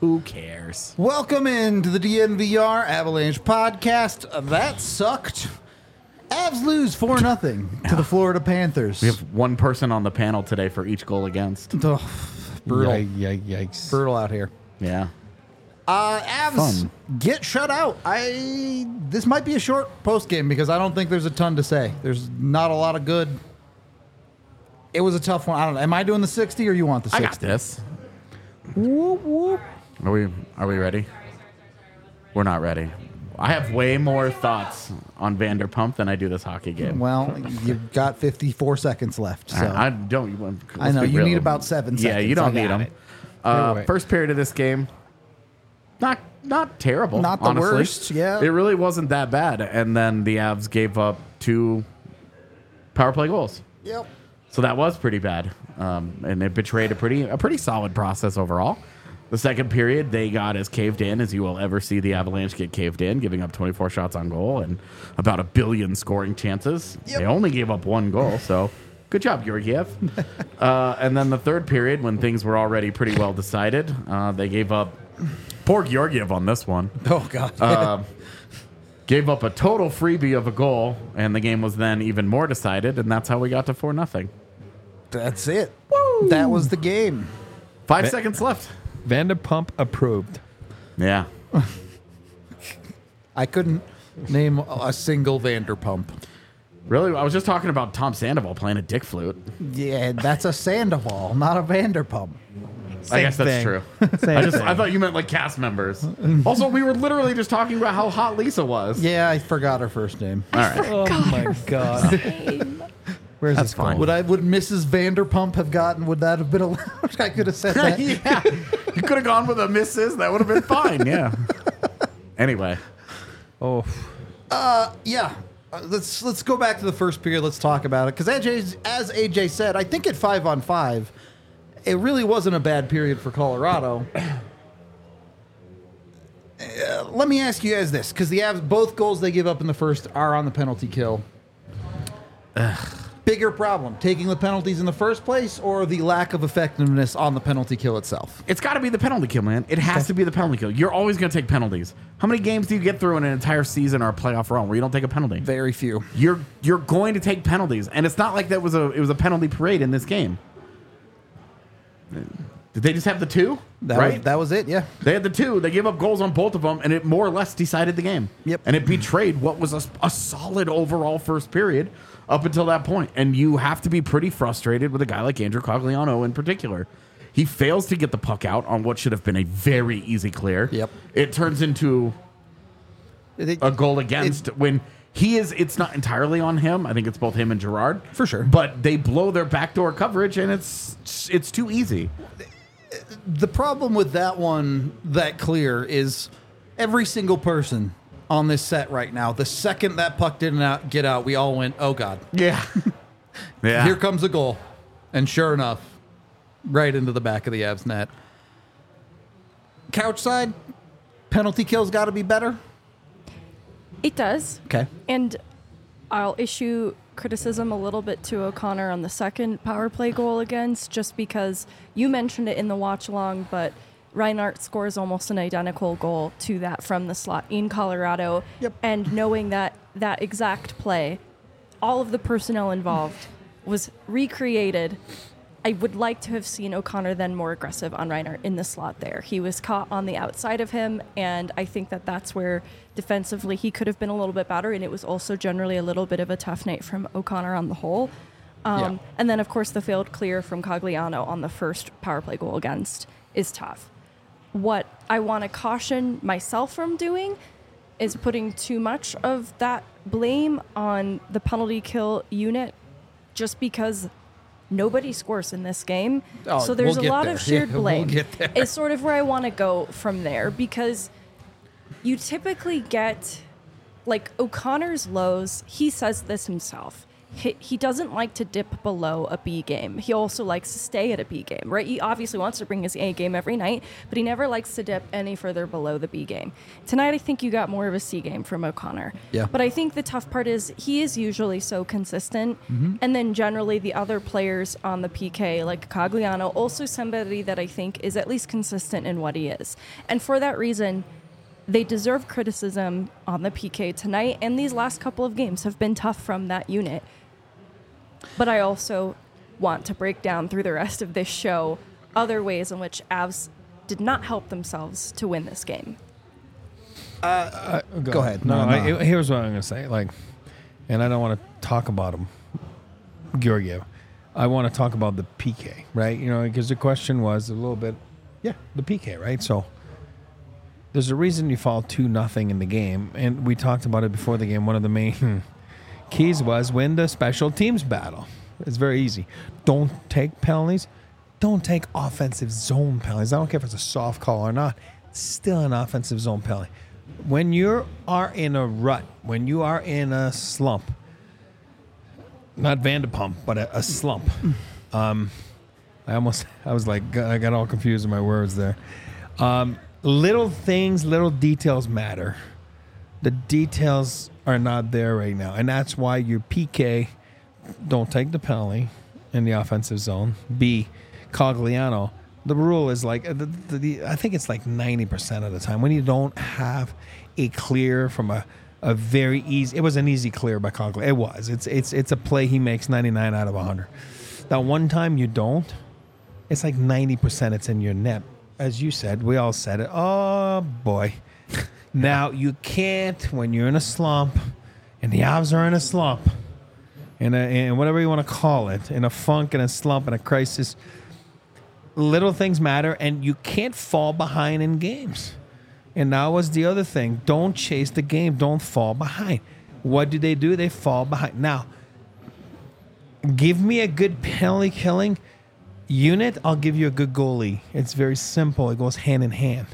Who cares? Welcome into the DNVR Avalanche podcast. That sucked. Avs lose 4-0 to the Florida Panthers. We have one person on the panel today for each goal against. Brutal. Yikes. Brutal out here. Yeah. Avs get shut out. This might be a short post game because I don't think there's a ton to say. There's not a lot of good. It was a tough one. I don't know. Am I doing the 60 or you want the 60? I got this. Whoop, whoop. Are we ready? We're not ready. I have way more thoughts on Vanderpump than I do this hockey game. Well, you've got 54 seconds left. So. I don't. I know. be You real. need about 7 seconds. Yeah, you don't need them. Anyway. First period of this game, not terrible. Not the honestly. worst, yeah. It really wasn't that bad. And then the Avs gave up 2 power play goals. Yep. So that was pretty bad, and it betrayed a pretty solid process overall. The second period, they got as caved in as you will ever see the Avalanche get caved in, giving up 24 shots on goal and about 1 billion scoring chances. Yep. They only gave up 1 goal, so good job, Georgiev. And then the third period, when things were already pretty well decided, they gave up. Poor Georgiev on this one. Oh, God. Gave up a total freebie of a goal, and the game was then even more decided, and that's how we got to 4-0. That's it. Woo. That was the game. 5 seconds left. Vanderpump approved. Yeah. I couldn't name a single Vanderpump. Really? I was just talking about Tom Sandoval playing a dick flute. Yeah, that's a Sandoval, not a Vanderpump. I guess that's thing. true. Same I thing. thought you meant like cast members. Also, we were literally just talking about how hot Lisa was. Yeah, I forgot her first name. All right. Oh my God. Where's That's this going? fine. Would Mrs. Vanderpump have gotten? Would that have been allowed? I could have said that. Yeah. You could have gone with a Mrs. That would have been fine. Yeah. Anyway. Oh, Yeah. Let's go back to the first period. Let's talk about it because as AJ said, I think at 5-on-5, it really wasn't a bad period for Colorado. Let me ask you guys this, because the Avs, both goals they give up in the first are on the penalty kill. Bigger problem, taking the penalties in the first place or the lack of effectiveness on the penalty kill itself? It's got to be the penalty kill, man. It has to be the penalty kill. You're always going to take penalties. How many games do you get through in an entire season or a playoff run where you don't take a penalty? Very few. You're going to take penalties, and it's not like it was a penalty parade in this game. Did they just have the 2? That was it, yeah. They had the 2. They gave up goals on both of them, and it more or less decided the game. Yep. And it betrayed what was a solid overall first period up until that point. And you have to be pretty frustrated with a guy like Andrew Cogliano in particular. He fails to get the puck out on what should have been a very easy clear. Yep. It turns into a goal against when he is. It's not entirely on him. I think it's both him and Gerard. For sure. But they blow their backdoor coverage, and it's too easy. The problem with that one, that clear, is every single person on this set right now, the second that puck didn't get out, we all went, oh, God. Yeah. Yeah. Here comes a goal. And sure enough, right into the back of the Avs net. Couch side, penalty kills got to be better. It does. Okay. And I'll issue criticism a little bit to O'Connor on the second power play goal against, just because you mentioned it in the watch along, but Reinhart scores almost an identical goal to that from the slot in Colorado. Yep. And knowing that exact play, all of the personnel involved was recreated. I would like to have seen O'Connor then more aggressive on Reinhart in the slot there. He was caught on the outside of him, and I think that's where defensively he could have been a little bit better, and it was also generally a little bit of a tough night from O'Connor on the whole. And then, of course, the failed clear from Cogliano on the first power play goal against is tough. What I want to caution myself from doing is putting too much of that blame on the penalty kill unit, just because nobody scores in this game. Oh, so there's we'll a get lot there. of shared Yeah, we'll blame. get there. It's sort of where I want to go from there, because you typically get, like, O'Connor's lows, he says this himself. he doesn't like to dip below a B game. He also likes to stay at a B game, right? He obviously wants to bring his A game every night, but he never likes to dip any further below the B game. Tonight, I think you got more of a C game from O'Connor. Yeah. But I think the tough part is he is usually so consistent, and then generally the other players on the PK, like Cogliano, also somebody that I think is at least consistent in what he is. And for that reason, they deserve criticism on the PK tonight, and these last couple of games have been tough from that unit. But I also want to break down through the rest of this show other ways in which Avs did not help themselves to win this game. Go ahead. No, No. here's what I'm going to say. And I don't want to talk about him, Georgiev. I want to talk about the PK, right? Because the question was a little bit, the PK, right? So there's a reason you fall 2-0 in the game, and we talked about it before the game. One of the main keys was win the special teams battle. It's very easy. Don't take penalties. Don't take offensive zone penalties. I don't care if it's a soft call or not. It's still an offensive zone penalty. When you are in a rut, when you are in a slump, not Vanderpump, but a slump. I got all confused in my words there. Little things, little details matter. The details are not there right now. And that's why your PK, don't take the penalty in the offensive zone. B, Cogliano. The rule is I think it's like 90% of the time when you don't have a clear from a very easy, it was an easy clear by Cogliano. It was. It's a play he makes 99 out of 100. That one time you don't, it's like 90% it's in your net. As you said, we all said it. Oh, boy. Now, you can't, when you're in a slump, and the Avs are in a slump, in whatever you want to call it, in a funk, in a slump, in a crisis, little things matter, and you can't fall behind in games. And that was the other thing. Don't chase the game. Don't fall behind. What do? They fall behind. Now, give me a good penalty killing unit, I'll give you a good goalie. It's very simple. It goes hand in hand.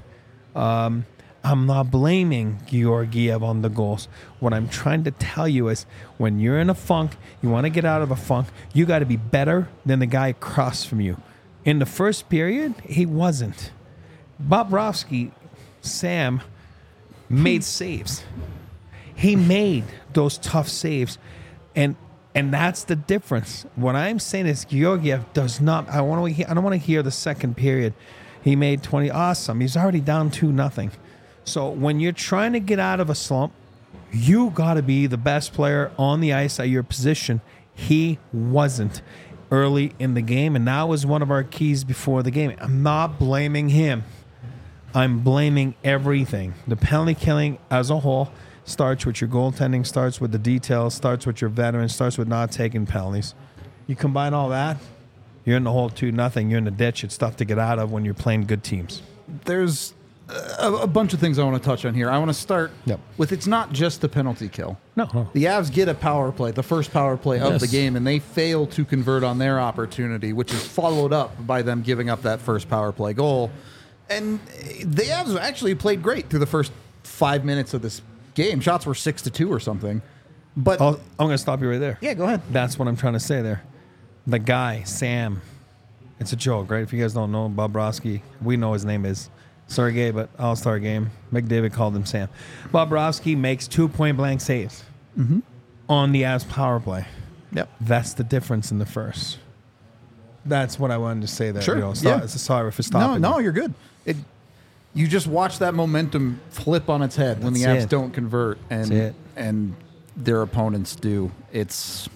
I'm not blaming Georgiev on the goals. What I'm trying to tell you is when you're in a funk, you want to get out of a funk, you got to be better than the guy across from you. In the first period, he wasn't. Bobrovsky, Sam, made saves. He made those tough saves. And that's the difference. What I'm saying is Georgiev does not. I don't want to hear the second period. He made 20. Awesome. He's already down 2-0. So when you're trying to get out of a slump, you got to be the best player on the ice at your position. He wasn't early in the game, and that was one of our keys before the game. I'm not blaming him. I'm blaming everything. The penalty killing as a whole starts with your goaltending, starts with the details, starts with your veterans, starts with not taking penalties. You combine all that, you're in the hole 2-0. You're in the ditch. It's tough to get out of when you're playing good teams. There's a bunch of things I want to touch on here. I want to start with it's not just the penalty kill. No. The Avs get a power play, the first power play of Yes. the game, and they fail to convert on their opportunity, which is followed up by them giving up that first power play goal. And the Avs actually played great through the first 5 minutes of this game. Shots were 6-2 or something. But I'm going to stop you right there. yeah, go ahead. That's what I'm trying to say there. The guy, Sam, it's a joke, right? If you guys don't know, Bobrovsky, we know his name is Sergei, but All-Star game. McDavid called him Sam. Bobrovsky makes 2 point-blank saves on the Avs power play. Yep. That's the difference in the first. That's what I wanted to say there. Sure. Sorry for stopping. No, you're good. You just watch that momentum flip on its head when the That's Avs it. don't convert That's it. and their opponents do. It's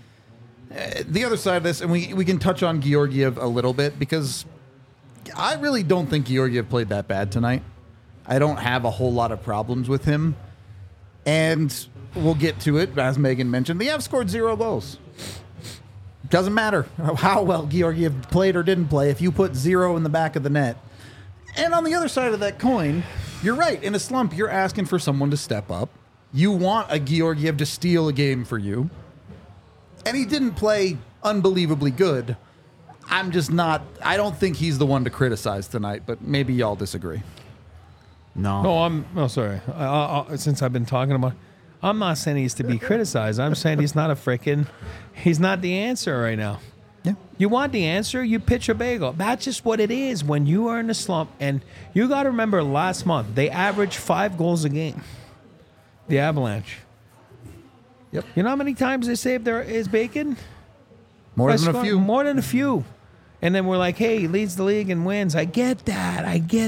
the other side of this, and we can touch on Georgiev a little bit because I really don't think Georgiev played that bad tonight. I don't have a whole lot of problems with him. And we'll get to it, as Megan mentioned. The Avs scored 0 goals. Doesn't matter how well Georgiev played or didn't play if you put 0 in the back of the net. And on the other side of that coin, you're right. In a slump, you're asking for someone to step up. You want a Georgiev to steal a game for you. And he didn't play unbelievably good. I'm just not. I don't think he's the one to criticize tonight, but maybe y'all disagree. No. No, sorry. Since I've been talking about, I'm not saying he's to be criticized. I'm saying he's not the answer right now. Yeah. You want the answer, you pitch a bagel. That's just what it is when you are in a slump. And you got to remember last month, they averaged 5 goals a game. The Avalanche. Yep. You know how many times they saved his bacon? More than a few. More than a few. And then we're like, hey, he leads the league in wins. I get that.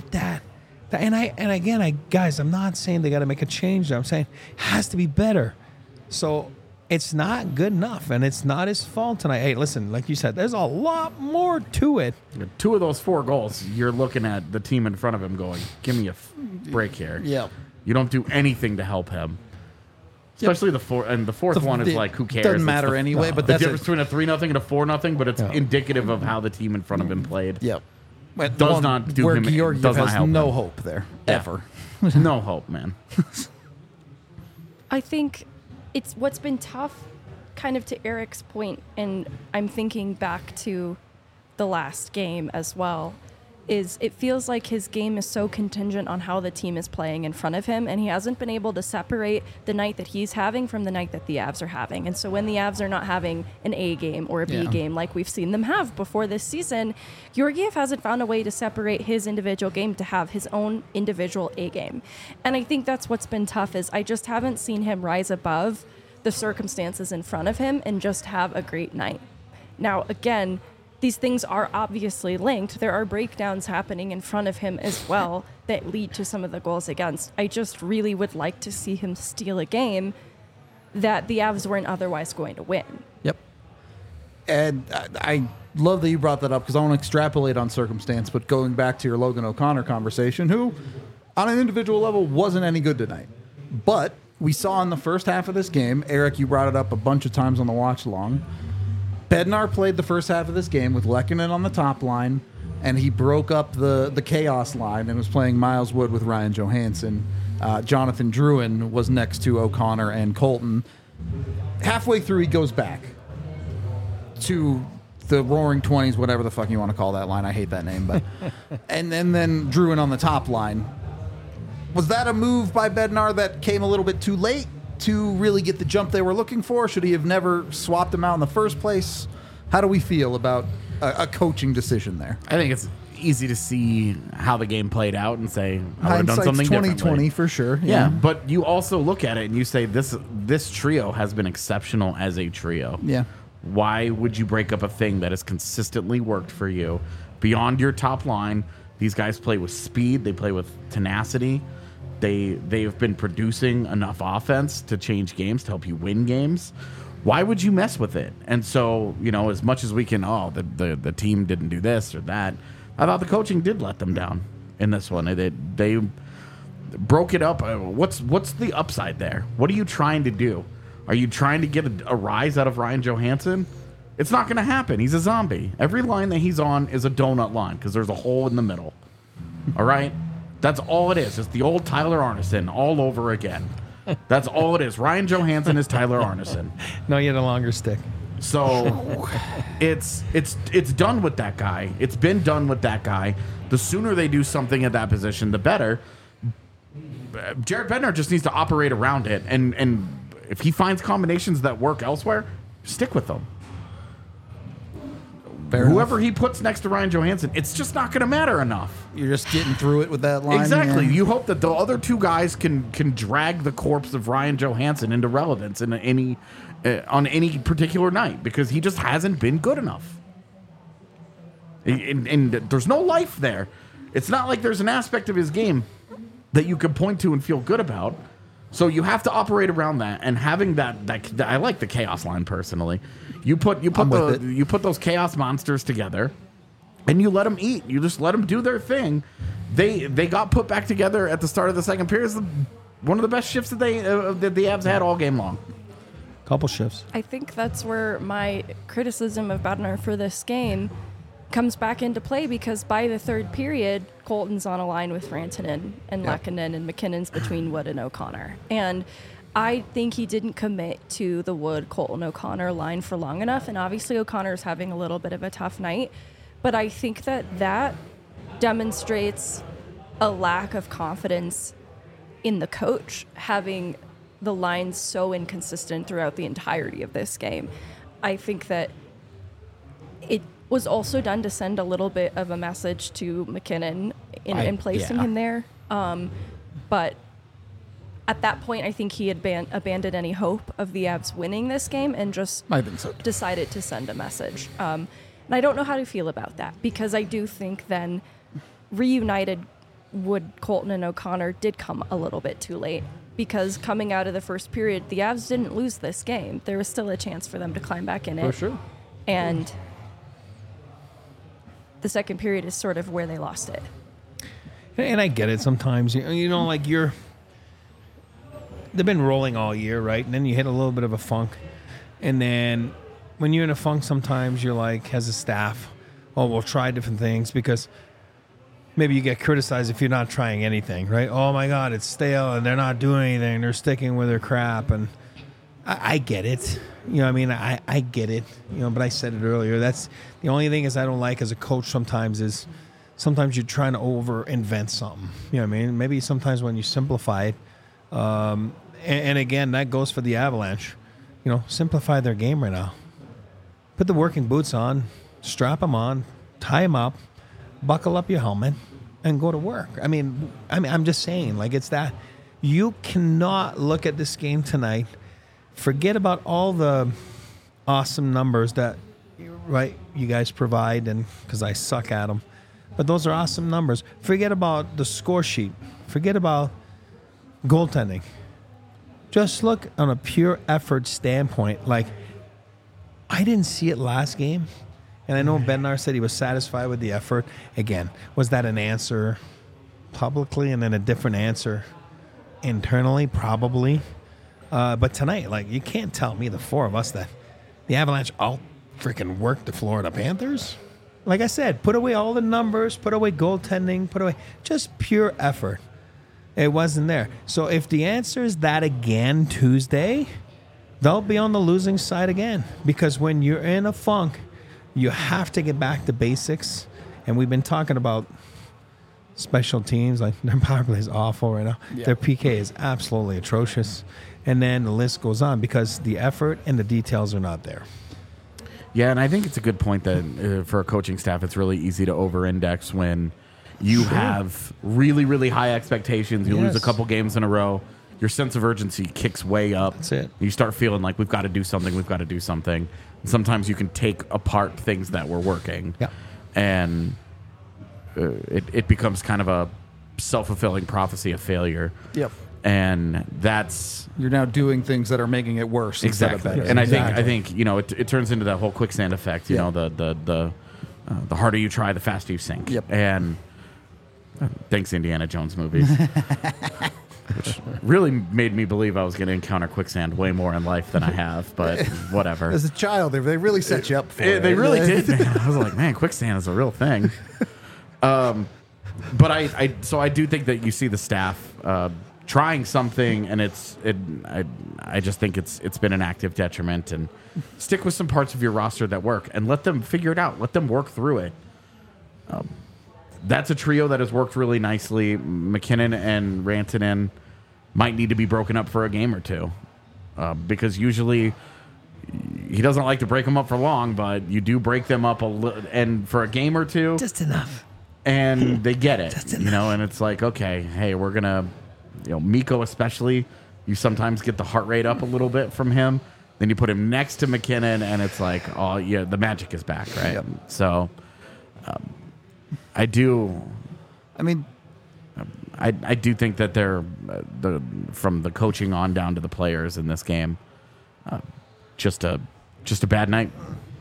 And guys, I'm not saying they got to make a change there. I'm saying it has to be better. So it's not good enough, and it's not his fault tonight. Hey, listen, like you said, there's a lot more to it. 2 of those 4 goals, you're looking at the team in front of him going, give me a break here. Yep. You don't do anything to help him. Especially the fourth one is like, who cares? Doesn't matter anyway, but the that's difference between a 3-0 and a 4-0, but it's indicative of how the team in front of him played. Yep. Does not do where him. Georgiev Does not has help no him. hope there, Yeah. ever. No hope, man. I think it's what's been tough, kind of to Eric's point, and I'm thinking back to the last game as well, is it feels like his game is so contingent on how the team is playing in front of him, and he hasn't been able to separate the night that he's having from the night that the Avs are having. And so when the Avs are not having an A game or a B game like we've seen them have before this season, Georgiev hasn't found a way to separate his individual game to have his own individual A game. And I think that's what's been tough, is I just haven't seen him rise above the circumstances in front of him and just have a great night. Now, again, these things are obviously linked. There are breakdowns happening in front of him as well that lead to some of the goals against. I just really would like to see him steal a game that the Avs weren't otherwise going to win. Yep. And I love that you brought that up, because I want to extrapolate on circumstance, but going back to your Logan O'Connor conversation, who on an individual level wasn't any good tonight. But we saw in the first half of this game, Eric, you brought it up a bunch of times on the watch along, Bednar played the first half of this game with Lehkonen on the top line, and he broke up the chaos line and was playing Miles Wood with Ryan Johansson. Jonathan Drouin was next to O'Connor and Colton. Halfway through, he goes back to the Roaring 20s, whatever the fuck you want to call that line. I hate that name. But and then Drouin on the top line. Was that a move by Bednar that came a little bit too late to really get the jump they were looking for? Should he have never swapped him out in the first place? How do we feel about a coaching decision there? I think it's easy to see how the game played out and say, I would have done something 2020 differently. for sure. Yeah, but you also look at it and you say, this trio has been exceptional as a trio. Yeah. Why would you break up a thing that has consistently worked for you beyond your top line? These guys play with speed. They play with tenacity. They've been producing enough offense to change games, to help you win games. Why would you mess with it? And so, as much as we can, the team didn't do this or that, I thought the coaching did let them down in this one. They broke it up. What's the upside there? What are you trying to do? Are you trying to get a rise out of Ryan Johansson? It's not going to happen. He's a zombie. Every line that he's on is a donut line because there's a hole in the middle. All right? That's all it is. It's the old Tyler Arneson all over again. That's all it is. Ryan Johansson is Tyler Arneson. No, you had a longer stick. So it's done with that guy. It's been done with that guy. The sooner they do something at that position, the better. Jared Bednar just needs to operate around it, and if he finds combinations that work elsewhere, stick with them. Whoever he puts next to Ryan Johansson, it's just not going to matter enough. You're just getting through it with that line. Exactly. Yeah. You hope that the other two guys can drag the corpse of Ryan Johansson into relevance in on any particular night, because he just hasn't been good enough. And there's no life there. It's not like there's an aspect of his game that you can point to and feel good about. So you have to operate around that, and having that I like the chaos line personally. You put those chaos monsters together, and you let them eat. You just let them do their thing. They got put back together at the start of the second period. It's one of the best shifts that the Avs had all game long. Couple shifts. I think that's where my criticism of Bednar for this game comes back into play, because by the third period, Colton's on a line with Rantanen and Lehkonen, and McKinnon's between Wood and O'Connor. And I think he didn't commit to the Wood, Colton, O'Connor line for long enough. And obviously O'Connor's having a little bit of a tough night. But I think that demonstrates a lack of confidence in the coach, having the lines so inconsistent throughout the entirety of this game. I think that it was also done to send a little bit of a message to McKinnon in placing him there. But at that point, I think he had abandoned any hope of the Avs winning this game and just I think so. decided to send a message. And I don't know how to feel about that, because I do think then reunited Wood, Colton, and O'Connor did come a little bit too late, because coming out of the first period, the Avs didn't lose this game. There was still a chance for them to climb back in it. For sure. And the second period is sort of where they lost it. And I get it sometimes. You know, like they've been rolling all year, right? And then you hit a little bit of a funk. And then when you're in a funk, sometimes you're like, as a staff, oh, we'll try different things, because maybe you get criticized if you're not trying anything, right? Oh my God, it's stale and they're not doing anything. They're sticking with their crap. And I get it. You know what I mean? I get it. You know, but I said it earlier. That's the only thing is I don't like as a coach sometimes is sometimes you're trying to over invent something. You know what I mean? Maybe sometimes when you simplify it, and again, that goes for the Avalanche. You know, simplify their game right now. Put the working boots on, strap them on, tie them up, buckle up your helmet, and go to work. I mean, I'm just saying, like, it's that. You cannot look at this game tonight, forget about all the awesome numbers that, right, you guys provide, and because I suck at them. But those are awesome numbers. Forget about the score sheet. Forget about goaltending. Just look on a pure effort standpoint. Like, I didn't see it last game. And I know Bednar said he was satisfied with the effort. Again, was that an answer publicly and then a different answer internally? Probably. But tonight, like, you can't tell me, the four of us, that the Avalanche all freaking worked the Florida Panthers. Like I said, put away all the numbers, put away goaltending, put away just pure effort. It wasn't there. So if the answer is that again Tuesday, they'll be on the losing side again. Because when you're in a funk, you have to get back to basics. And we've been talking about special teams. Like, their power play is awful right now. Yeah. Their PK is absolutely atrocious. And then the list goes on because the effort and the details are not there. Yeah, and I think it's a good point that for a coaching staff, it's really easy to over-index when you have really, really high expectations. You lose a couple games in a row. Your sense of urgency kicks way up. That's it. You start feeling like we've got to do something. We've got to do something. And sometimes you can take apart things that were working. Yeah. And it becomes kind of a self-fulfilling prophecy of failure. Yep. And that's you're now doing things that are making it worse. Exactly. Instead of better. And I think you know it turns into that whole quicksand effect. You know, the harder you try, the faster you sink. Yep. And thanks, Indiana Jones movies, which really made me believe I was going to encounter quicksand way more in life than I have. But whatever. As a child, they really set you up for it. They really did. Man. I was like, man, quicksand is a real thing. But I do think that you see the staff trying something, and I just think it's been an active detriment. And stick with some parts of your roster that work, and let them figure it out. Let them work through it. That's a trio that has worked really nicely. McKinnon and Rantanen might need to be broken up for a game or two, because usually he doesn't like to break them up for long, but you do break them up a little, and for a game or two, just enough. And they get it, you know. And it's like, okay, hey, we're gonna. You know, Mikko especially, you sometimes get the heart rate up a little bit from him. Then you put him next to McKinnon, and it's like, oh, yeah, the magic is back, right? Yep. So, I do. I mean, I do think that they're from the coaching on down to the players in this game, just a bad night.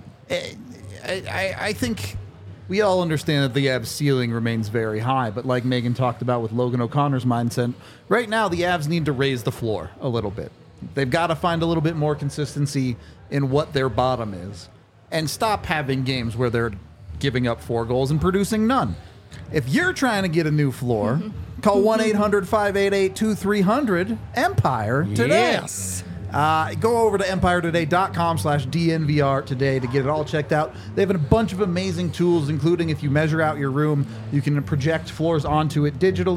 I think. We all understand that the Avs' ceiling remains very high, but like Megan talked about with Logan O'Connor's mindset, right now the Avs need to raise the floor a little bit. They've got to find a little bit more consistency in what their bottom is and stop having games where they're giving up 4 goals and producing none. If you're trying to get a new floor, call 1-800-588-2300 Empire today. Yes. Go over to empiretoday.com/DNVR today to get it all checked out. They have a bunch of amazing tools, including if you measure out your room, you can project floors onto it digitally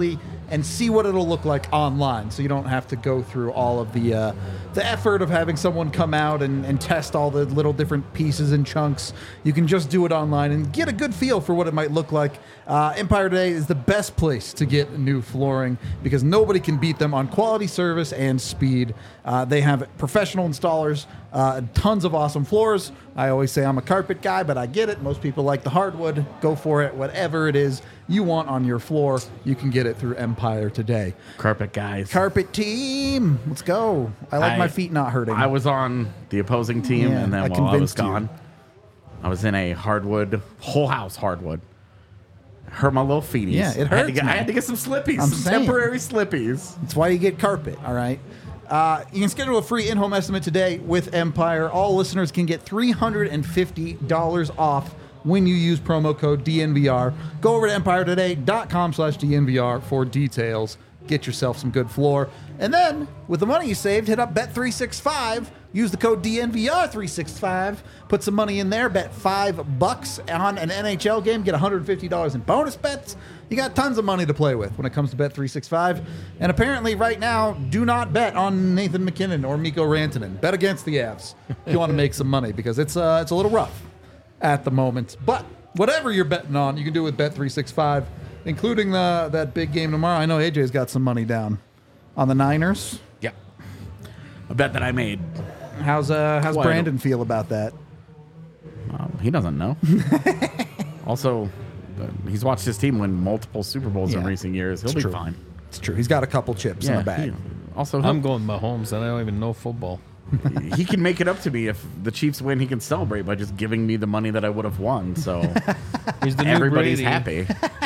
and see what it'll look like online, so you don't have to go through all of the effort of having someone come out and test all the little different pieces and chunks. You can just do it online and get a good feel for what it might look like. Empire Today is the best place to get new flooring because nobody can beat them on quality, service, and speed. They have professional installers, tons of awesome floors. I always say I'm a carpet guy, but I get it. Most people like the hardwood. Go for it. Whatever it is you want on your floor, you can get it through Empire Today. Carpet guys. Carpet team, let's go. I like my feet not hurting. I was on the opposing team, Yeah, and then I while I was convinced you. gone, I was in a hardwood, whole house hardwood. Hurt my little feeties. Yeah, it I had hurts, I man. had to get some slippies, I'm some saying. temporary slippies. That's why you get carpet, all right? You can schedule a free in-home estimate today with Empire. All listeners can get $350 off when you use promo code DNVR. Go over to empiretoday.com/DNVR for details. Get yourself some good floor. And then, with the money you saved, hit up Bet365. Use the code DNVR365. Put some money in there. Bet $5 on an NHL game. Get $150 in bonus bets. You got tons of money to play with when it comes to Bet365. And apparently, right now, do not bet on Nathan McKinnon or Mikko Rantanen. Bet against the Avs if you want to make some money because it's a little rough at the moment. But whatever you're betting on, you can do with Bet365, including that big game tomorrow. I know AJ's got some money down on the Niners. Yeah. A bet that I made. How's Quite Brandon feel about that? He doesn't know. Also, he's watched his team win multiple Super Bowls in Yeah, recent years. He'll it's be true. fine. It's true. He's got a couple chips in the bag. Also, I'm going Mahomes, and I don't even know football. he can make it up to me if the Chiefs win. He can celebrate by just giving me the money that I would have won. So He's the new everybody's Brady. happy.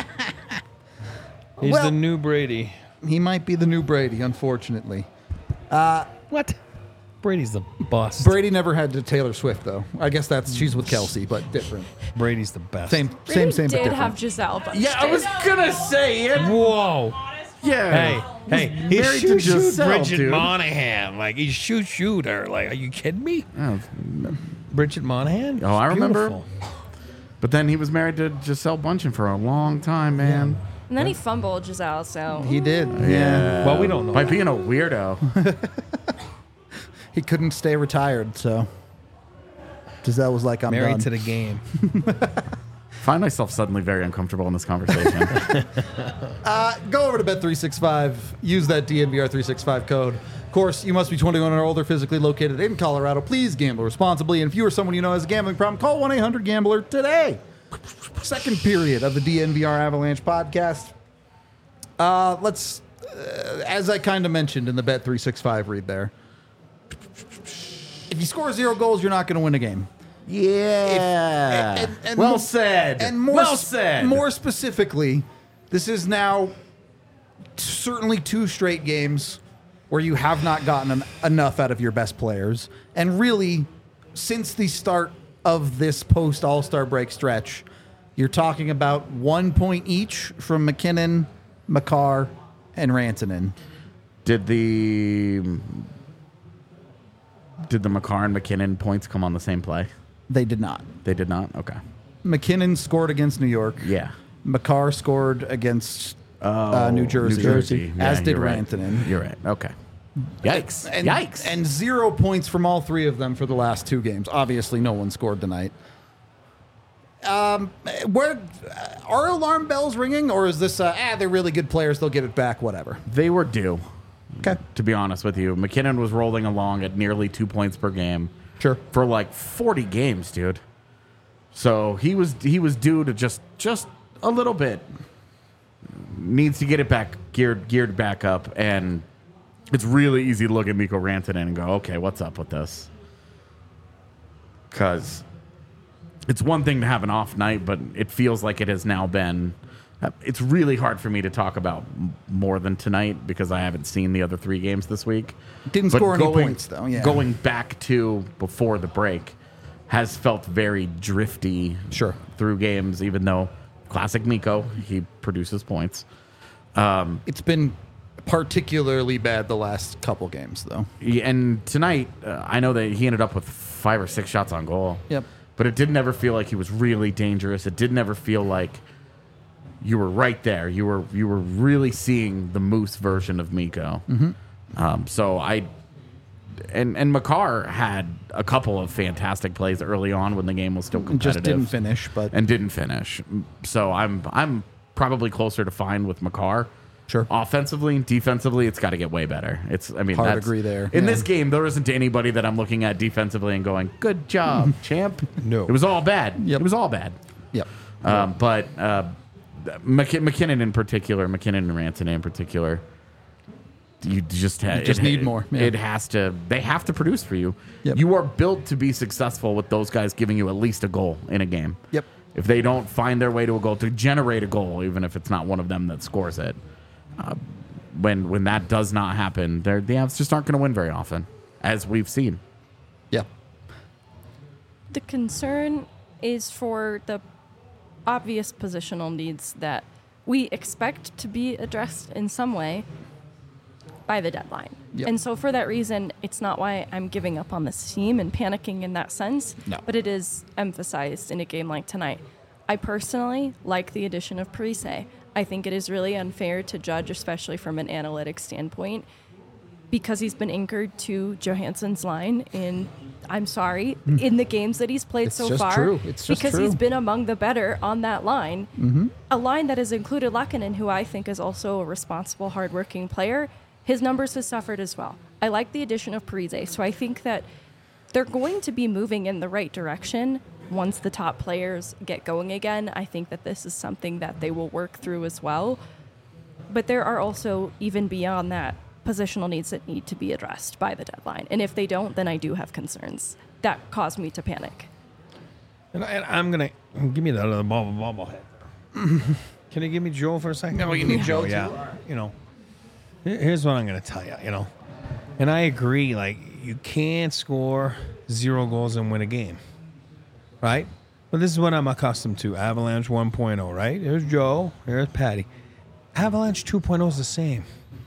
He's Well- the new Brady. He might be the new Brady, unfortunately. What? Brady's the boss. Brady never had to Taylor Swift, though. I guess she's with Kelsey, but different. Brady's the best. Same, Brady but did different. have Giselle, but Yeah, I was gonna say it. Whoa. Yeah. Hey, he married to shoot Giselle, Bridget dude. Monahan. Like, he shoot her. Like, are you kidding me? Oh, Bridget Monahan? Oh, I remember. Beautiful. but then he was married to Giselle Bundchen for a long time, man. and then he fumbled Giselle, so He did. Yeah. Well, we don't know. By that. being a weirdo. He couldn't stay retired, so Giselle was like, I'm Married done. to the game. Find myself suddenly very uncomfortable in this conversation. Go over to Bet365. Use that DNVR365 code. Of course, you must be 21 or older, physically located in Colorado. Please gamble responsibly. And if you or someone you know has a gambling problem, call 1-800-GAMBLER today. Second period of the DNVR Avalanche podcast. Let's, as I kind of mentioned in the Bet365 read there, if you score 0 goals, you're not going to win a game. Yeah. And well said. And more, well said. More specifically, this is now certainly 2 straight games where you have not gotten enough out of your best players. And really, since the start of this post All-Star break stretch, you're talking about 1 point each from McKinnon, Makar, and Rantanen. Did the Makar and McKinnon points come on the same play? They did not. They did not? Okay. McKinnon scored against New York. Yeah. Makar scored against New Jersey. As Yeah, did you're right. Rantanen. You're right. Okay. Yikes. And, Yikes. And 0 points from all 3 of them for the last 2 games. Obviously, no one scored tonight. Where are alarm bells ringing, or is this they're really good players, they'll get it back, whatever? They were due, Okay, to be honest with you. McKinnon was rolling along at nearly 2 points per game sure. for like 40 games, dude. So he was due to just a little bit. Needs to get it back geared back up, and it's really easy to look at Mikko Rantanen and go, okay, what's up with this? Because it's one thing to have an off night, but it feels like it has now been. It's really hard for me to talk about more than tonight because I haven't seen the other 3 games this week. Didn't But score any points, though. Yeah. Going back to before the break has felt very drifty Sure. through games, even though classic Mikko, he produces points. It's been particularly bad the last couple games, though. And tonight, I know that he ended up with 5 or 6 shots on goal. Yep. But it didn't ever feel like he was really dangerous. It didn't ever feel like you were right there. You were really seeing the Moose version of Mikko. So and Makar had a couple of fantastic plays early on when the game was still competitive. Just didn't finish, but and didn't finish. So I'm probably closer to fine with Makar. Sure. Offensively, defensively, it's got to get way better. Hard to agree there. In Yeah. this game, there isn't anybody that I'm looking at defensively and going, "Good job, champ." No. It was all bad. Yep. It was all bad. Yep. But McKinnon in particular, McKinnon and Rantanen in particular, you just need more. Yeah. They have to produce for you. Yep. You are built to be successful with those guys giving you at least a goal in a game. Yep. If they don't find their way to a goal, to generate a goal, even if it's not one of them that scores it, when that does not happen, the Avs just aren't going to win very often, as we've seen. Yeah. The concern is for the obvious positional needs that we expect to be addressed in some way by the deadline. Yep. And so for that reason, it's not why I'm giving up on this team and panicking in that sense, No. but it is emphasized in a game like tonight. I personally like the addition of Parise. I think it is really unfair to judge, especially from an analytics standpoint, because he's been anchored to Johansson's line in the games that he's played It's so just far. true. It's just because true. he's been among the better on that line. Mm-hmm. A line that has included Lehkonen, who I think is also a responsible, hardworking player. His numbers have suffered as well. I like the addition of Parise, so I think that they're going to be moving in the right direction once the top players get going again. I think that this is something that they will work through as well. But there are also, even beyond that, positional needs that need to be addressed by the deadline. And if they don't, then I do have concerns that cause me to panic. And I'm going to give me that other bobblehead. Can you give me Joe for a second? No, you need Joe, too. Yeah. You know, here's what I'm going to tell you, you know. And I agree, like, you can't score 0 goals and win a game, right? But this is what I'm accustomed to. Avalanche 1.0, right? Here's Joe. Here's Patty. Avalanche 2.0 is the same.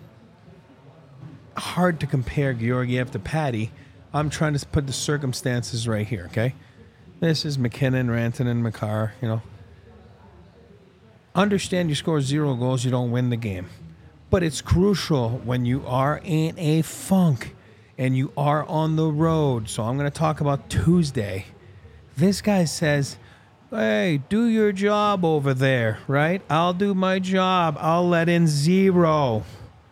Hard to compare Georgiev to Patty. I'm trying to put the circumstances right here, okay? This is McKinnon, Rantanen, Makar, you know. Understand you score 0 goals, you don't win the game. But it's crucial when you are in a funk and you are on the road. So I'm going to talk about Tuesday. This guy says, hey, do your job over there, right? I'll do my job. I'll let in 0.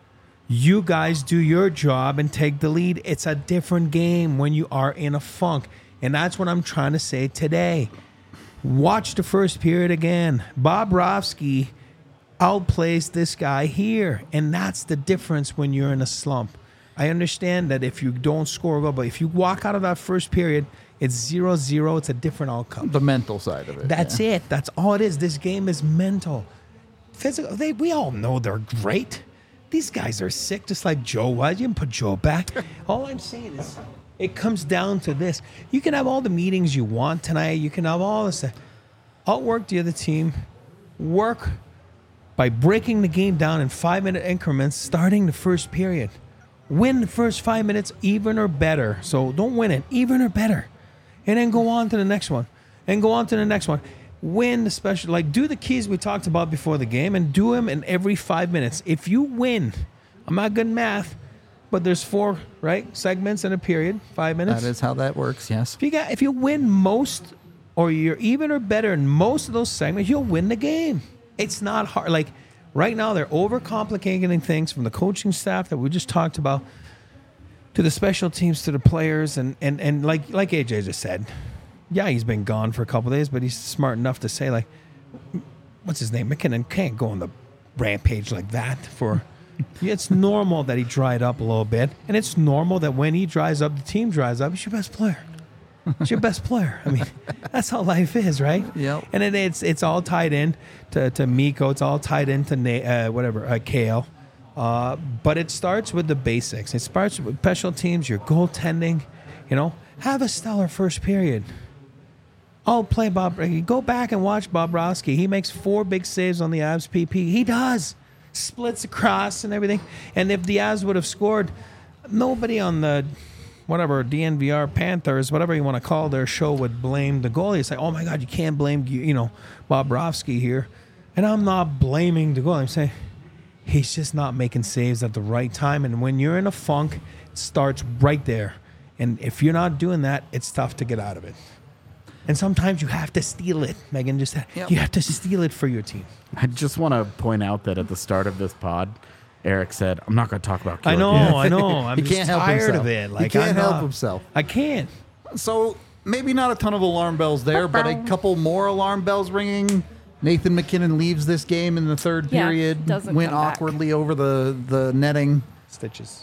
You guys do your job and take the lead. It's a different game when you are in a funk. And that's what I'm trying to say today. Watch the first period again. Bobrovsky outplays this guy here. And that's the difference when you're in a slump. I understand that if you don't score a goal, but if you walk out of that first period, it's 0-0. It's a different outcome. The mental side of it. That's it. That's all it is. This game is mental. Physical. We all know they're great. These guys are sick, just like Joe was. You can put Joe back. All I'm saying is it comes down to this. You can have all the meetings you want tonight. You can have all this stuff. Outwork the other team. Work by breaking the game down in 5-minute increments, starting the first period. Win the first 5 minutes, even or better. So don't win it, even or better. And then go on to the next one. And go on to the next one. Win the special, like do the keys we talked about before the game and do them in every 5 minutes. If you win, I'm not good at math, but there's 4, right, segments in a period, 5 minutes. That is how that works, yes. If you win most or you're even or better in most of those segments, you'll win the game. It's not hard. Like right now, they're overcomplicating things from the coaching staff that we just talked about to the special teams, to the players, and like AJ just said, yeah, he's been gone for a couple of days, but he's smart enough to say, like, what's his name? McKinnon can't go on the rampage like that. It's normal that he dried up a little bit, and it's normal that when he dries up, the team dries up. He's your best player. It's your best player. I mean, that's how life is, right? Yep. And then it's all tied in to Mikko. It's all tied into Kale. But it starts with the basics. It starts with special teams, your goaltending. You know, have a stellar first period. I'll play Bob. Go back and watch Bobrovsky. He makes 4 big saves on the Avs PP. He does. Splits across and everything. And if the Avs would have scored, nobody on the DNVR Panthers, whatever you want to call their show, would blame the goalie. It's like, oh my God, you can't blame Bobrovsky here. And I'm not blaming the goal. I'm saying he's just not making saves at the right time. And when you're in a funk, it starts right there. And if you're not doing that, it's tough to get out of it. And sometimes you have to steal it. Megan just said, you have to steal it for your team. I just want to point out that at the start of this pod, Eric said, I'm not going to talk about I know. I'm He just can't help tired himself. of it. He can't help himself. I can't. So maybe not a ton of alarm bells there, but a couple more alarm bells ringing. Nathan McKinnon leaves this game in the third Yeah, period. doesn't Went come back. awkwardly over the netting. Stitches.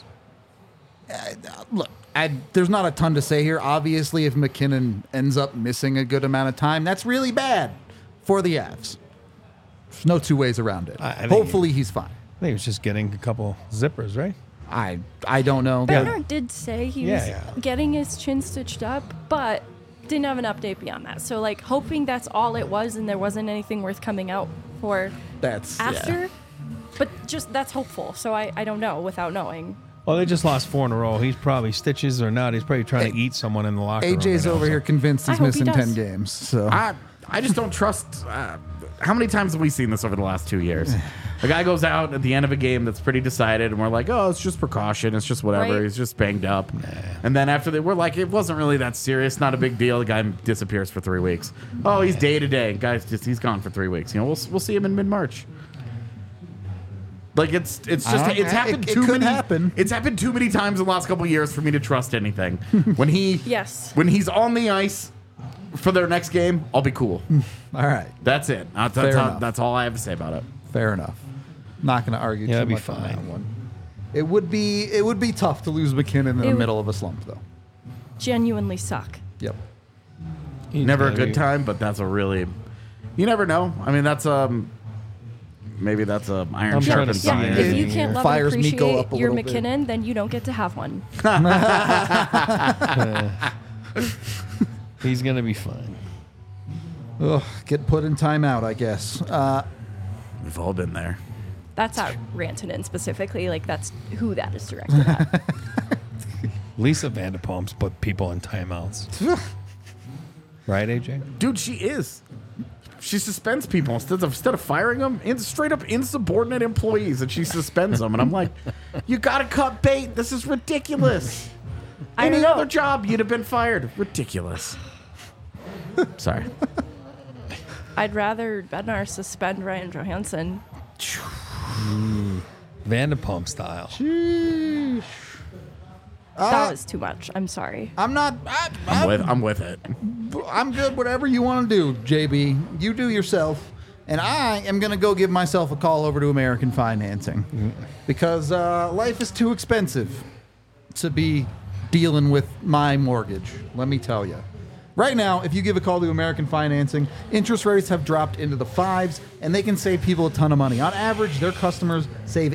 Look, there's not a ton to say here. Obviously, if McKinnon ends up missing a good amount of time, that's really bad for the Avs. There's no two ways around it. I think Hopefully, he's fine. I think he was just getting a couple zippers, right? I don't know. Bernard did say he was Yeah. getting his chin stitched up, but didn't have an update beyond that. So, like, hoping that's all it was and there wasn't anything worth coming out for That's after. yeah. But just that's hopeful. So I don't know without knowing. Well, they just lost 4 in a row. He's probably stitches or not. He's probably trying to eat someone in the locker room. AJ's right now, over so. here convinced I he's hope he missing does. 10 games. So I just don't trust. How many times have we seen this over the last 2 years? A guy goes out at the end of a game that's pretty decided, and we're like, oh, it's just precaution. It's just whatever. Right. He's just banged up. And then after that, we're like, it wasn't really that serious. Not a big deal. The guy disappears for 3 weeks. Oh, he's day to day. Guys, he's gone for 3 weeks. You know, we'll see him in mid-March. Like it's happened it too could many. happen. It's happened too many times in the last couple of years for me to trust anything. When Yes. he's on the ice for their next game, I'll be cool. all right, That's it. Fair enough. That's all I have to say about it. fair enough. Not going to argue Yeah, too it'd be much on that fine. one. It would be tough to lose McKinnon in the would- middle of a slump, though. Genuinely suck. Yep. He's Never a gotta good be- time, but that's a really. You never know. I mean, that's maybe that's a iron I'm trying to sharpened see Yeah, it. iron. if you Yeah. can't love Fires and Miko appreciate up a your little bit. McKinnon, then you don't get to have one. He's going to be fine. Ugh, get put in timeout, I guess. We've all been there. That's not Rantanen specifically. Like, that's who that is directed at. Lisa Vanderpumps put people in timeouts. Right, AJ? Dude, she is. She suspends people instead of firing them, straight up insubordinate employees, and she suspends them. And I'm like, you got to cut bait. This is ridiculous. I Any don't know. other job, you'd have been fired. Ridiculous. Sorry. I'd rather Bednar suspend Ryan Johansson. Vanderpump style. That was too much. I'm sorry. I'm not. I'm with it. I'm good. Whatever you want to do, JB. You do yourself. And I am going to go give myself a call over to American Financing because life is too expensive to be dealing with my mortgage. Let me tell you. Right now, if you give a call to American Financing, interest rates have dropped into the 5s, and they can save people a ton of money. On average, their customers save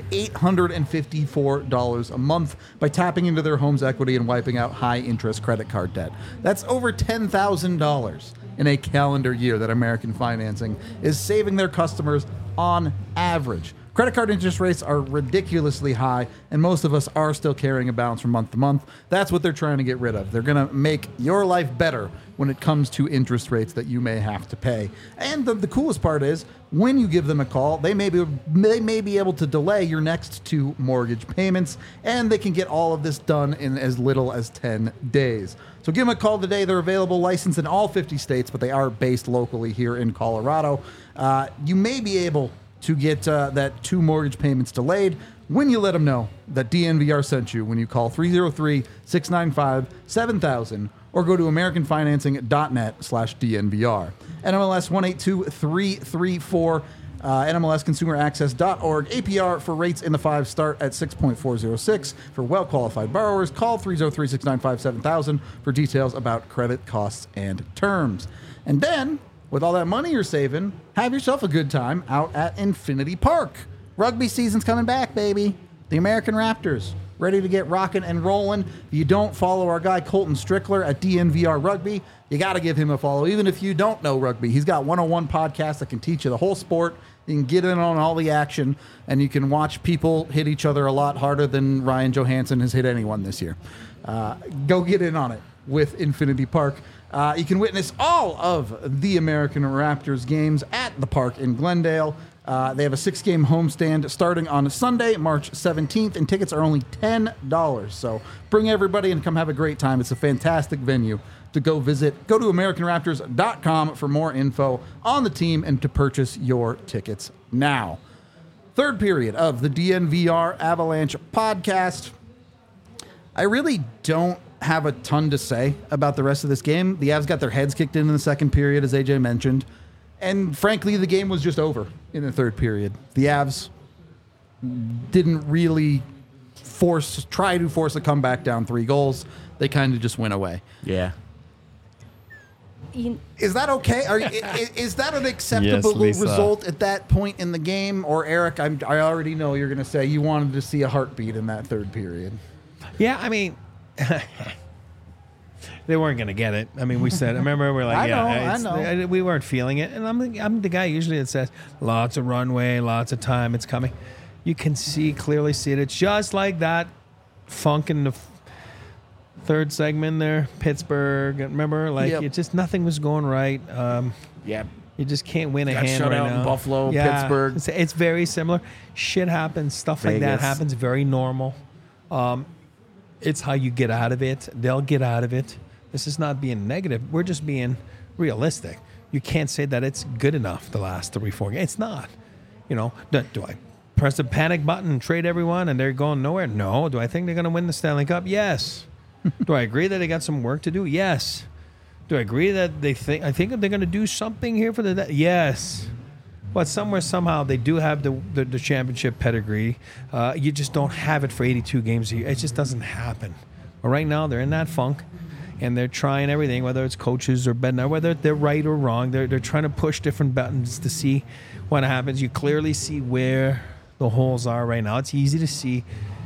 $854 a month by tapping into their home's equity and wiping out high-interest credit card debt. That's over $10,000 in a calendar year that American Financing is saving their customers on average. Credit card interest rates are ridiculously high, and most of us are still carrying a balance from month to month. That's what they're trying to get rid of. They're going to make your life better when it comes to interest rates that you may have to pay. And the coolest part is, when you give them a call, they may be able to delay your next 2 mortgage payments, and they can get all of this done in as little as 10 days. So give them a call today. They're available, licensed in all 50 states, but they are based locally here in Colorado. You may be able to get that 2 mortgage payments delayed when you let them know that DNVR sent you when you call 303-695-7000 or go to americanfinancing.net/DNVR. NMLS 182334, NMLSconsumeraccess.org. APR for rates in the 5 start at 6.406. For well-qualified borrowers, call 303-695-7000 for details about credit costs and terms. And then, with all that money you're saving, have yourself a good time out at Infinity Park. Rugby season's coming back, baby. The American Raptors, ready to get rocking and rolling. If you don't follow our guy Colton Strickler at DNVR Rugby, you got to give him a follow. Even if you don't know rugby, he's got 101 podcasts that can teach you the whole sport. You can get in on all the action, and you can watch people hit each other a lot harder than Ryan Johansson has hit anyone this year. Go get in on it with Infinity Park. You can witness all of the American Raptors games at the park in Glendale. They have a 6-game homestand starting on Sunday, March 17th, and tickets are only $10. So bring everybody and come have a great time. It's a fantastic venue to go visit. Go to AmericanRaptors.com for more info on the team and to purchase your tickets now. Third period of the DNVR Avalanche podcast. I really don't have a ton to say about the rest of this game. The Avs got their heads kicked in the second period, as AJ mentioned. And frankly, the game was just over in the third period. The Avs didn't really try to force a comeback down 3 goals. They kind of just went away. Yeah. Is that okay? Is that an acceptable Yes, Lisa. result at that point in the game? Or Eric, I already know you're going to say you wanted to see a heartbeat in that third period. Yeah, I mean, they weren't going to get it. I mean, we said, I remember we were like, I know. we weren't feeling it. And I'm the guy usually that says, lots of runway, lots of time, it's coming. You can clearly see it. It's just like that funk in the third segment there, Pittsburgh. Remember, like, Yep. it just, nothing was going right. Yeah. You just can't win a Got hand shut right out in now. Buffalo, Pittsburgh. It's very similar. Shit happens. Stuff like that Vegas. happens. Very normal. It's how you get out of it. They'll get out of it. This is not being negative. We're just being realistic. You can't say that it's good enough the last 3-4 games. It's not. You know, do I press the panic button and trade everyone and they're going nowhere? No. Do I think they're going to win the Stanley Cup? Yes. Do I agree that they got some work to do? Yes. Do I agree that I think they're going to do something here for the... Yes. But somewhere, somehow, they do have the championship pedigree. You just don't have it for 82 games a year. It just doesn't happen. But right now, they're in that funk, and they're trying everything, whether it's coaches or Bednar, whether they're right or wrong. They're trying to push different buttons to see what happens. You clearly see where the holes are right now. It's easy to see.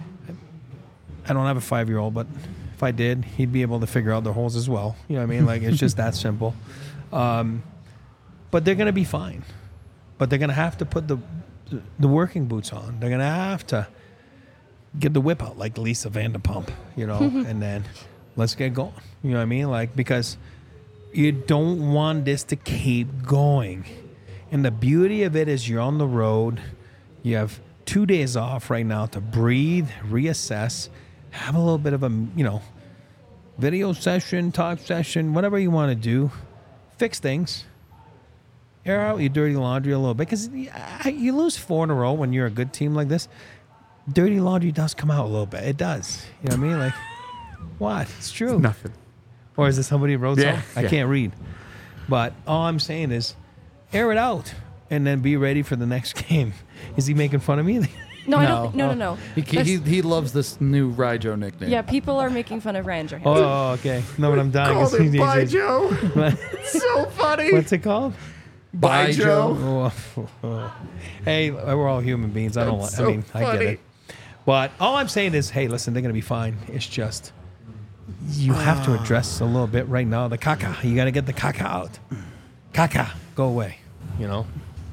I don't have a 5-year-old, but if I did, he'd be able to figure out the holes as well. You know what I mean? Like, it's just that simple. But they're going to be fine. But they're going to have to put the working boots on. They're going to have to get the whip out like Lisa Vanderpump, you know, and then let's get going. You know what I mean? Like, because you don't want this to keep going. And the beauty of it is you're on the road. You have 2 days off right now to breathe, reassess, have a little bit of a, you know, video session, talk session, whatever you want to do. Fix things. Air out your dirty laundry a little bit, because you lose 4 in a row when you're a good team like this. Dirty laundry does come out a little bit. It does. You know what I mean? Like, what? It's true. Nothing. Or is it somebody who wrote Yeah, something? I yeah. can't read. But all I'm saying is, air it out and then be ready for the next game. Is he making fun of me? No, I don't. No. He loves this new Ryjo nickname. Yeah, people are making fun of Ryan Johansson. Oh, okay. No, but I'm dying. Called him Bye Joe. What- So funny. What's it called? Bye Joe. Oh. Hey, we're all human beings. I don't. That's I so mean, I get funny. it. But all I'm saying is, hey, listen, they're gonna be fine. It's just you have to address a little bit right now. The caca. You got to get the caca out. Caca, go away. You know.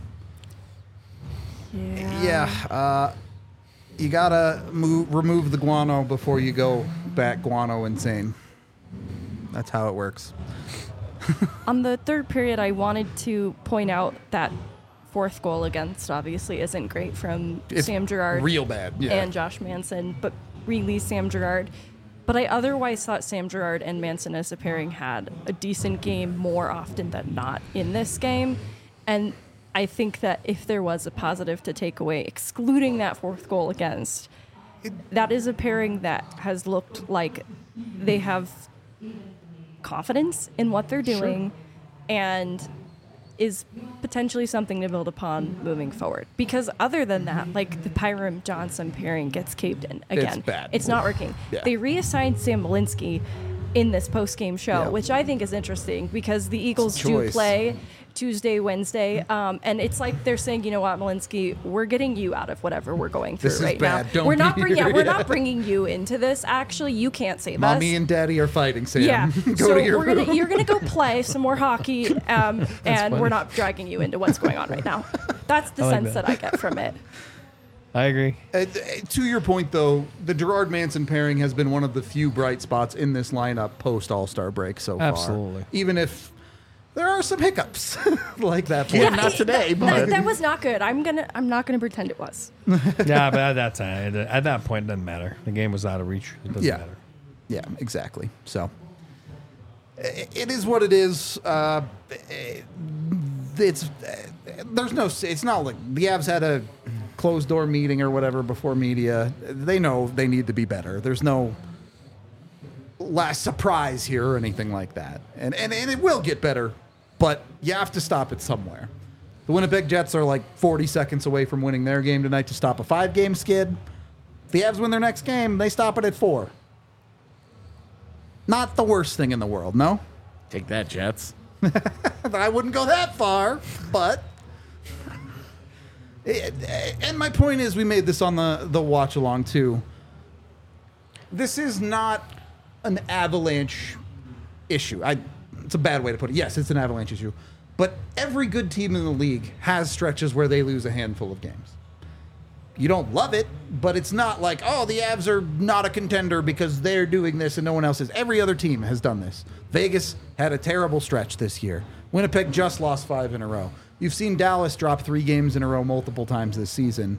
Yeah. You gotta remove the guano before you go back guano insane. That's how it works. On the third period, I wanted to point out that fourth goal against obviously isn't great from It's Sam Girard real bad. Yeah. and Josh Manson, but really Sam Girard. But I otherwise thought Sam Girard and Manson as a pairing had a decent game more often than not in this game. And I think that if there was a positive to take away, excluding that fourth goal against, that is a pairing that has looked like they have confidence in what they're doing and is potentially something to build upon moving forward. Because other than that, like the Pyram Johnson pairing gets caved in again. It's bad. It's not working. Yeah. They reassigned Sam Malinsky in this post-game show, Yeah. which I think is interesting because the Eagles do choice. play Tuesday, Wednesday, and it's like they're saying, you know what, Malinsky, we're getting you out of whatever we're going through This is right bad. now. Don't We're not be bringing, here. we're Yeah. not bringing you into this. Actually, you can't save us. Mommy and Daddy are fighting, Sam. Yeah, Go so to your room. you're gonna go play some more hockey, and funny. we're not dragging you into what's going on right now. That's the I like sense that. that I get from it. I agree. To your point, though, the Girard Manson pairing has been one of the few bright spots in this lineup post All-Star break so far. Absolutely. Even if there are some hiccups like that. Yeah, not today, but That was not good. I'm not gonna pretend it was. Yeah, but at that time, at that point, it doesn't matter. The game was out of reach. It doesn't matter. Yeah, exactly. So it is what it is. It's not like the Avs had a closed door meeting or whatever before media. They know they need to be better. There's no last surprise here or anything like that. And it will get better, but you have to stop it somewhere. The Winnipeg Jets are like 40 seconds away from winning their game tonight to stop a 5-game skid. If the Avs win their next game, they stop it at 4. Not the worst thing in the world, no? take that, Jets. I wouldn't go that far, but... And my point is, we made this on the watch along too. This is not an Avalanche issue. It's a bad way to put it. Yes, it's an Avalanche issue. But every good team in the league has stretches where they lose a handful of games. You don't love it, but it's not like, oh, the Avs are not a contender because they're doing this and no one else is. Every other team has done this. Vegas had a terrible stretch this year. Winnipeg just lost 5 in a row. You've seen Dallas drop 3 games in a row multiple times this season.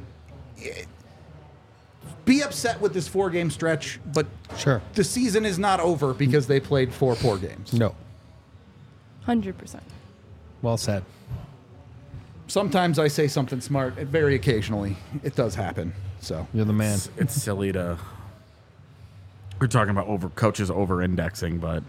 Be upset with this 4-game stretch, but Sure. the season is not over because they played 4 poor games. No. 100%. Well said. Sometimes I say something smart, and very occasionally it does happen. So You're the man. It's silly to. We're talking about coaches over-indexing, but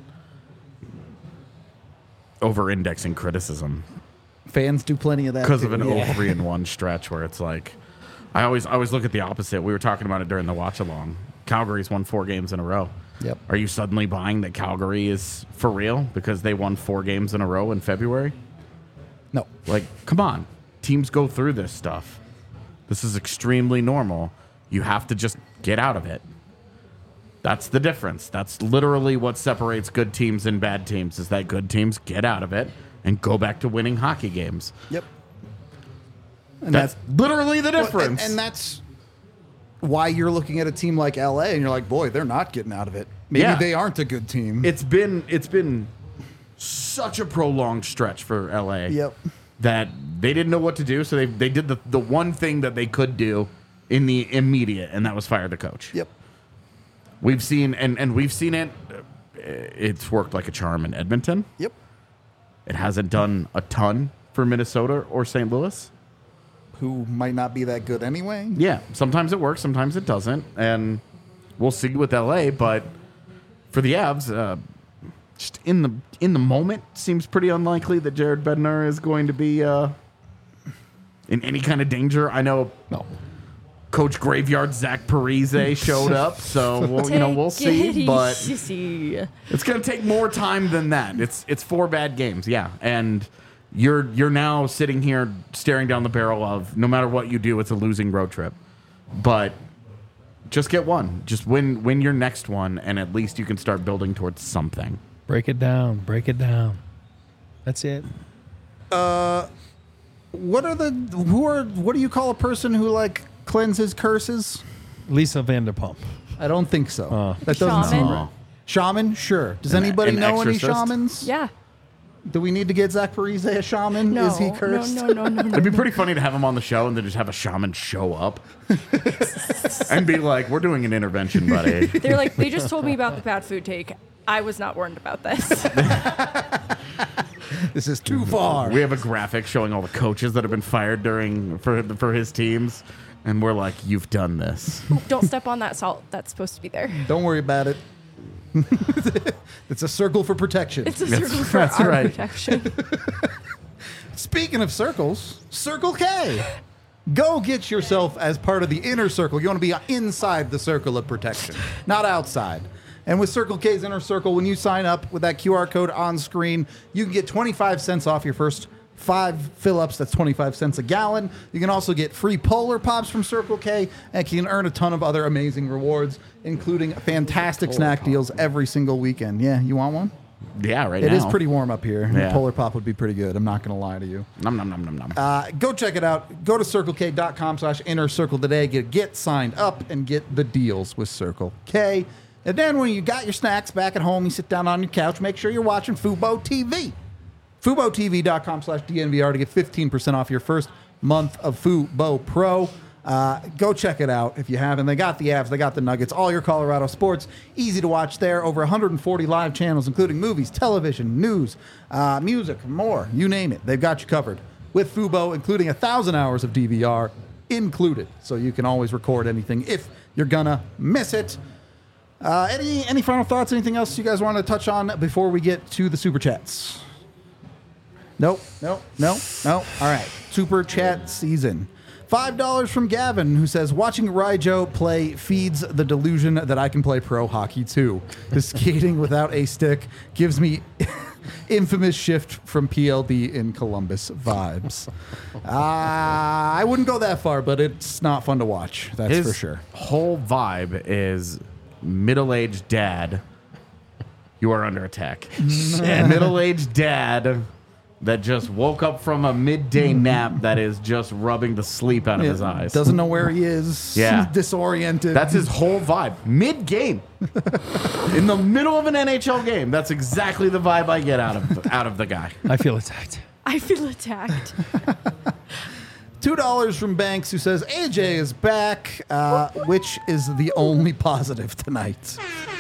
over-indexing criticism fans do plenty of that because too. of an Yeah. 0-3-1 stretch where it's like, I always look at the opposite. We were talking about it during the watch along. Calgary's won 4 games in a row. Yep. Are you suddenly buying that Calgary is for real because they won 4 games in a row in February? No. Like, come on. Teams go through this stuff. This is extremely normal. You have to just get out of it. That's the difference. That's literally what separates good teams and bad teams, is that good teams get out of it and go back to winning hockey games. Yep. And That's literally the well, difference. and that's why you're looking at a team like LA and you're like, boy, they're not getting out of it. Maybe Yeah. they aren't a good team. It's been such a prolonged stretch for LA. Yep. That they didn't know what to do, so they did the one thing that they could do in the immediate, and that was fire the coach. Yep. We've seen and we've seen it. It's worked like a charm in Edmonton. Yep. It hasn't done a ton for Minnesota or St. Louis. Who might not be that good anyway. Yeah, sometimes it works, sometimes it doesn't, and we'll see with LA. But for the Avs, just in the moment, seems pretty unlikely that Jared Bednar is going to be in any kind of danger. I know. No. Coach Graveyard Zach Parise showed up, so we'll see. But easy. it's going to take more time than that. It's 4 bad games, yeah, and you're now sitting here staring down the barrel of no matter what you do, it's a losing road trip. But just get one, just win your next one, and at least you can start building towards something. Break it down. Break it down. That's it. What do you call a person who like cleanses curses? Lisa Vanderpump. I don't think so. That doesn't Shaman. seem right. Shaman, sure. Does An- anybody an know any exorcist? shamans? Yeah. Do we need to get Zach Parise a shaman? No. Is he cursed? No. It'd be pretty funny to have him on the show and then just have a shaman show up and be like, "We're doing an intervention, buddy." They're like, they just told me about the bad food take. I was not warned about this. This is too far. We have a graphic showing all the coaches that have been fired for his teams, and we're like, "You've done this." Don't step on that salt. That's supposed to be there. Don't worry about it. It's a circle for protection. It's a circle for that's our right. protection. Speaking of circles, Circle K. Go get yourself as part of the inner circle. You want to be inside the circle of protection, not outside. And with Circle K's Inner Circle, when you sign up with that QR code on screen, you can get 25 cents off your first 5 fill-ups. That's 25 cents a gallon. You can also get free Polar Pops from Circle K, and you can earn a ton of other amazing rewards, including fantastic snack deals every single weekend. Yeah, you want one? Yeah, right. It now is pretty warm up here. Yeah. Polar Pop would be pretty good. I'm not going to lie to you. Nom nom nom nom nom. Go check it out. Go to CircleK.com/Inner Circle today. Get signed up and get the deals with Circle K. And then when you got your snacks back at home, you sit down on your couch, make sure you're watching Fubo TV. FuboTV.com/DNVR to get 15% off your first month of Fubo Pro. Go check it out if you haven't. They got the Avs, they got the Nuggets, all your Colorado sports. Easy to watch there. Over 140 live channels, including movies, television, news, music, more. You name it. They've got you covered. With Fubo, including 1,000 hours of DVR included. So you can always record anything if you're gonna miss it. Any final thoughts? Anything else you guys want to touch on before we get to the Super Chats? Nope. All right. Super Chat season. $5 from Gavin, who says, watching Raijo play feeds the delusion that I can play pro hockey too. The skating without a stick gives me infamous shift from PLD in Columbus vibes. I wouldn't go that far, but it's not fun to watch. That's His for sure. whole vibe is middle-aged dad. You are under attack. Middle-aged dad that just woke up from a midday nap that is just rubbing the sleep out of his eyes. Doesn't know where he is. Yeah. Disoriented. That's his whole vibe. Mid-game. In the middle of an NHL game. That's exactly the vibe I get out of the guy. I feel attacked. I feel attacked. $2 from Banks, who says AJ is back, which is the only positive tonight.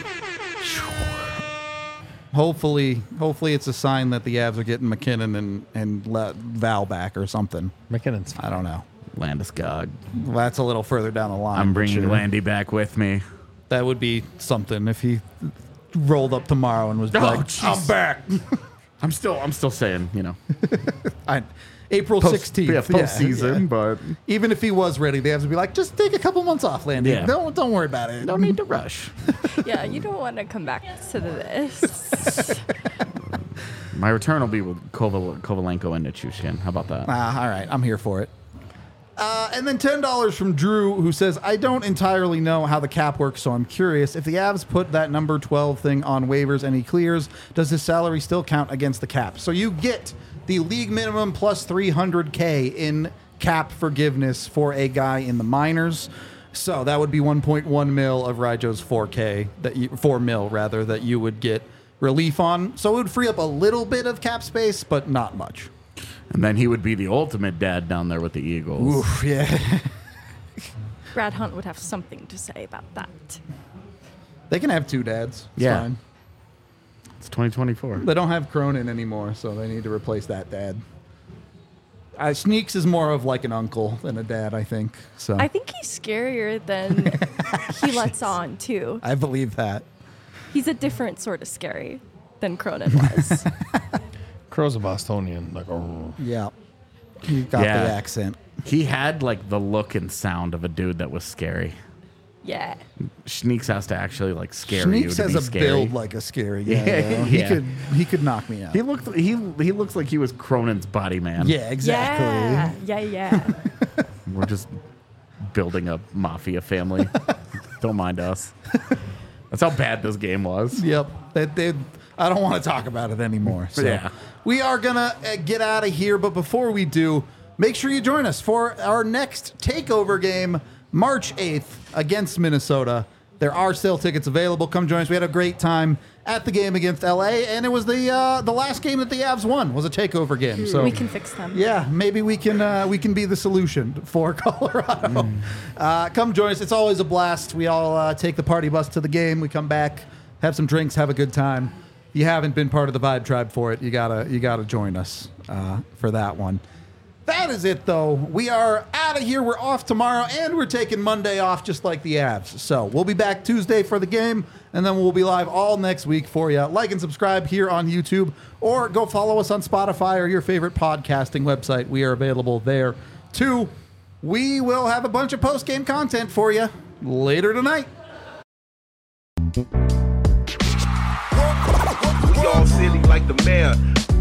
Hopefully it's a sign that the Avs are getting McKinnon and let Val back or something. McKinnon's I don't know. Landeskog. Well, that's a little further down the line. I'm but bringing sure. Landy back with me. That would be something if he rolled up tomorrow and was like, jeez. I'm back. I'm still saying, April 16th. Yeah, postseason, but even if he was ready, the Avs would be like, just take a couple months off, Landy. Yeah. Don't worry about it. no need to rush. Yeah, you don't want to come back to this. My return will be with Kovalenko and Nichushkin. How about that? All right, I'm here for it. And then $10 from Drew, who says, I don't entirely know how the cap works, so I'm curious. If the Avs put that number 12 thing on waivers and he clears, does his salary still count against the cap? So you get the league minimum plus $300K in cap forgiveness for a guy in the minors. So that would be 1.1 mil of Raijo's 4 mil rather, that you would get relief on. So it would free up a little bit of cap space, but not much. And then he would be the ultimate dad down there with the Eagles. Oof, yeah. Brad Hunt would have something to say about that. They can have two dads. It's Yeah. fine. It's 2024. They don't have Cronin anymore, so they need to replace that dad. Sneaks is more of like an uncle than a dad, I think. So I think he's scarier than he lets on, too. I believe that. He's a different sort of scary than Cronin was. Crow's a Bostonian. Like, oh. Yeah. You got Yeah. the accent. He had like the look and sound of a dude that was scary. Yeah. Schneeks has to actually like scare you Sneaks to has be a scary. build like a scary guy. Yeah, though. yeah. He could knock me out. He looks like he was Cronin's body man. Yeah, exactly. Yeah. We're just building a mafia family. Don't mind us. That's how bad this game was. Yep. I don't want to talk about it anymore. So Yeah. we are going to get out of here. But before we do, make sure you join us for our next takeover game, March 8th against Minnesota. There are still tickets available. Come join us. We had a great time at the game against LA, and it was the last game that the Avs won was a takeover game. So We can fix them. yeah, maybe we can be the solution for Colorado. Come join us. It's always a blast. We all take the party bus to the game. We come back, have some drinks, have a good time. If you haven't been part of the Vibe Tribe for it, you gotta join us for that one. That is it, though. We are out of here. We're off tomorrow, and we're taking Monday off, just like the Avs. So we'll be back Tuesday for the game, and then we'll be live all next week for you. Like and subscribe here on YouTube, or go follow us on Spotify or your favorite podcasting website. We are available there, too. We will have a bunch of post-game content for you later tonight. We all silly like the mayor.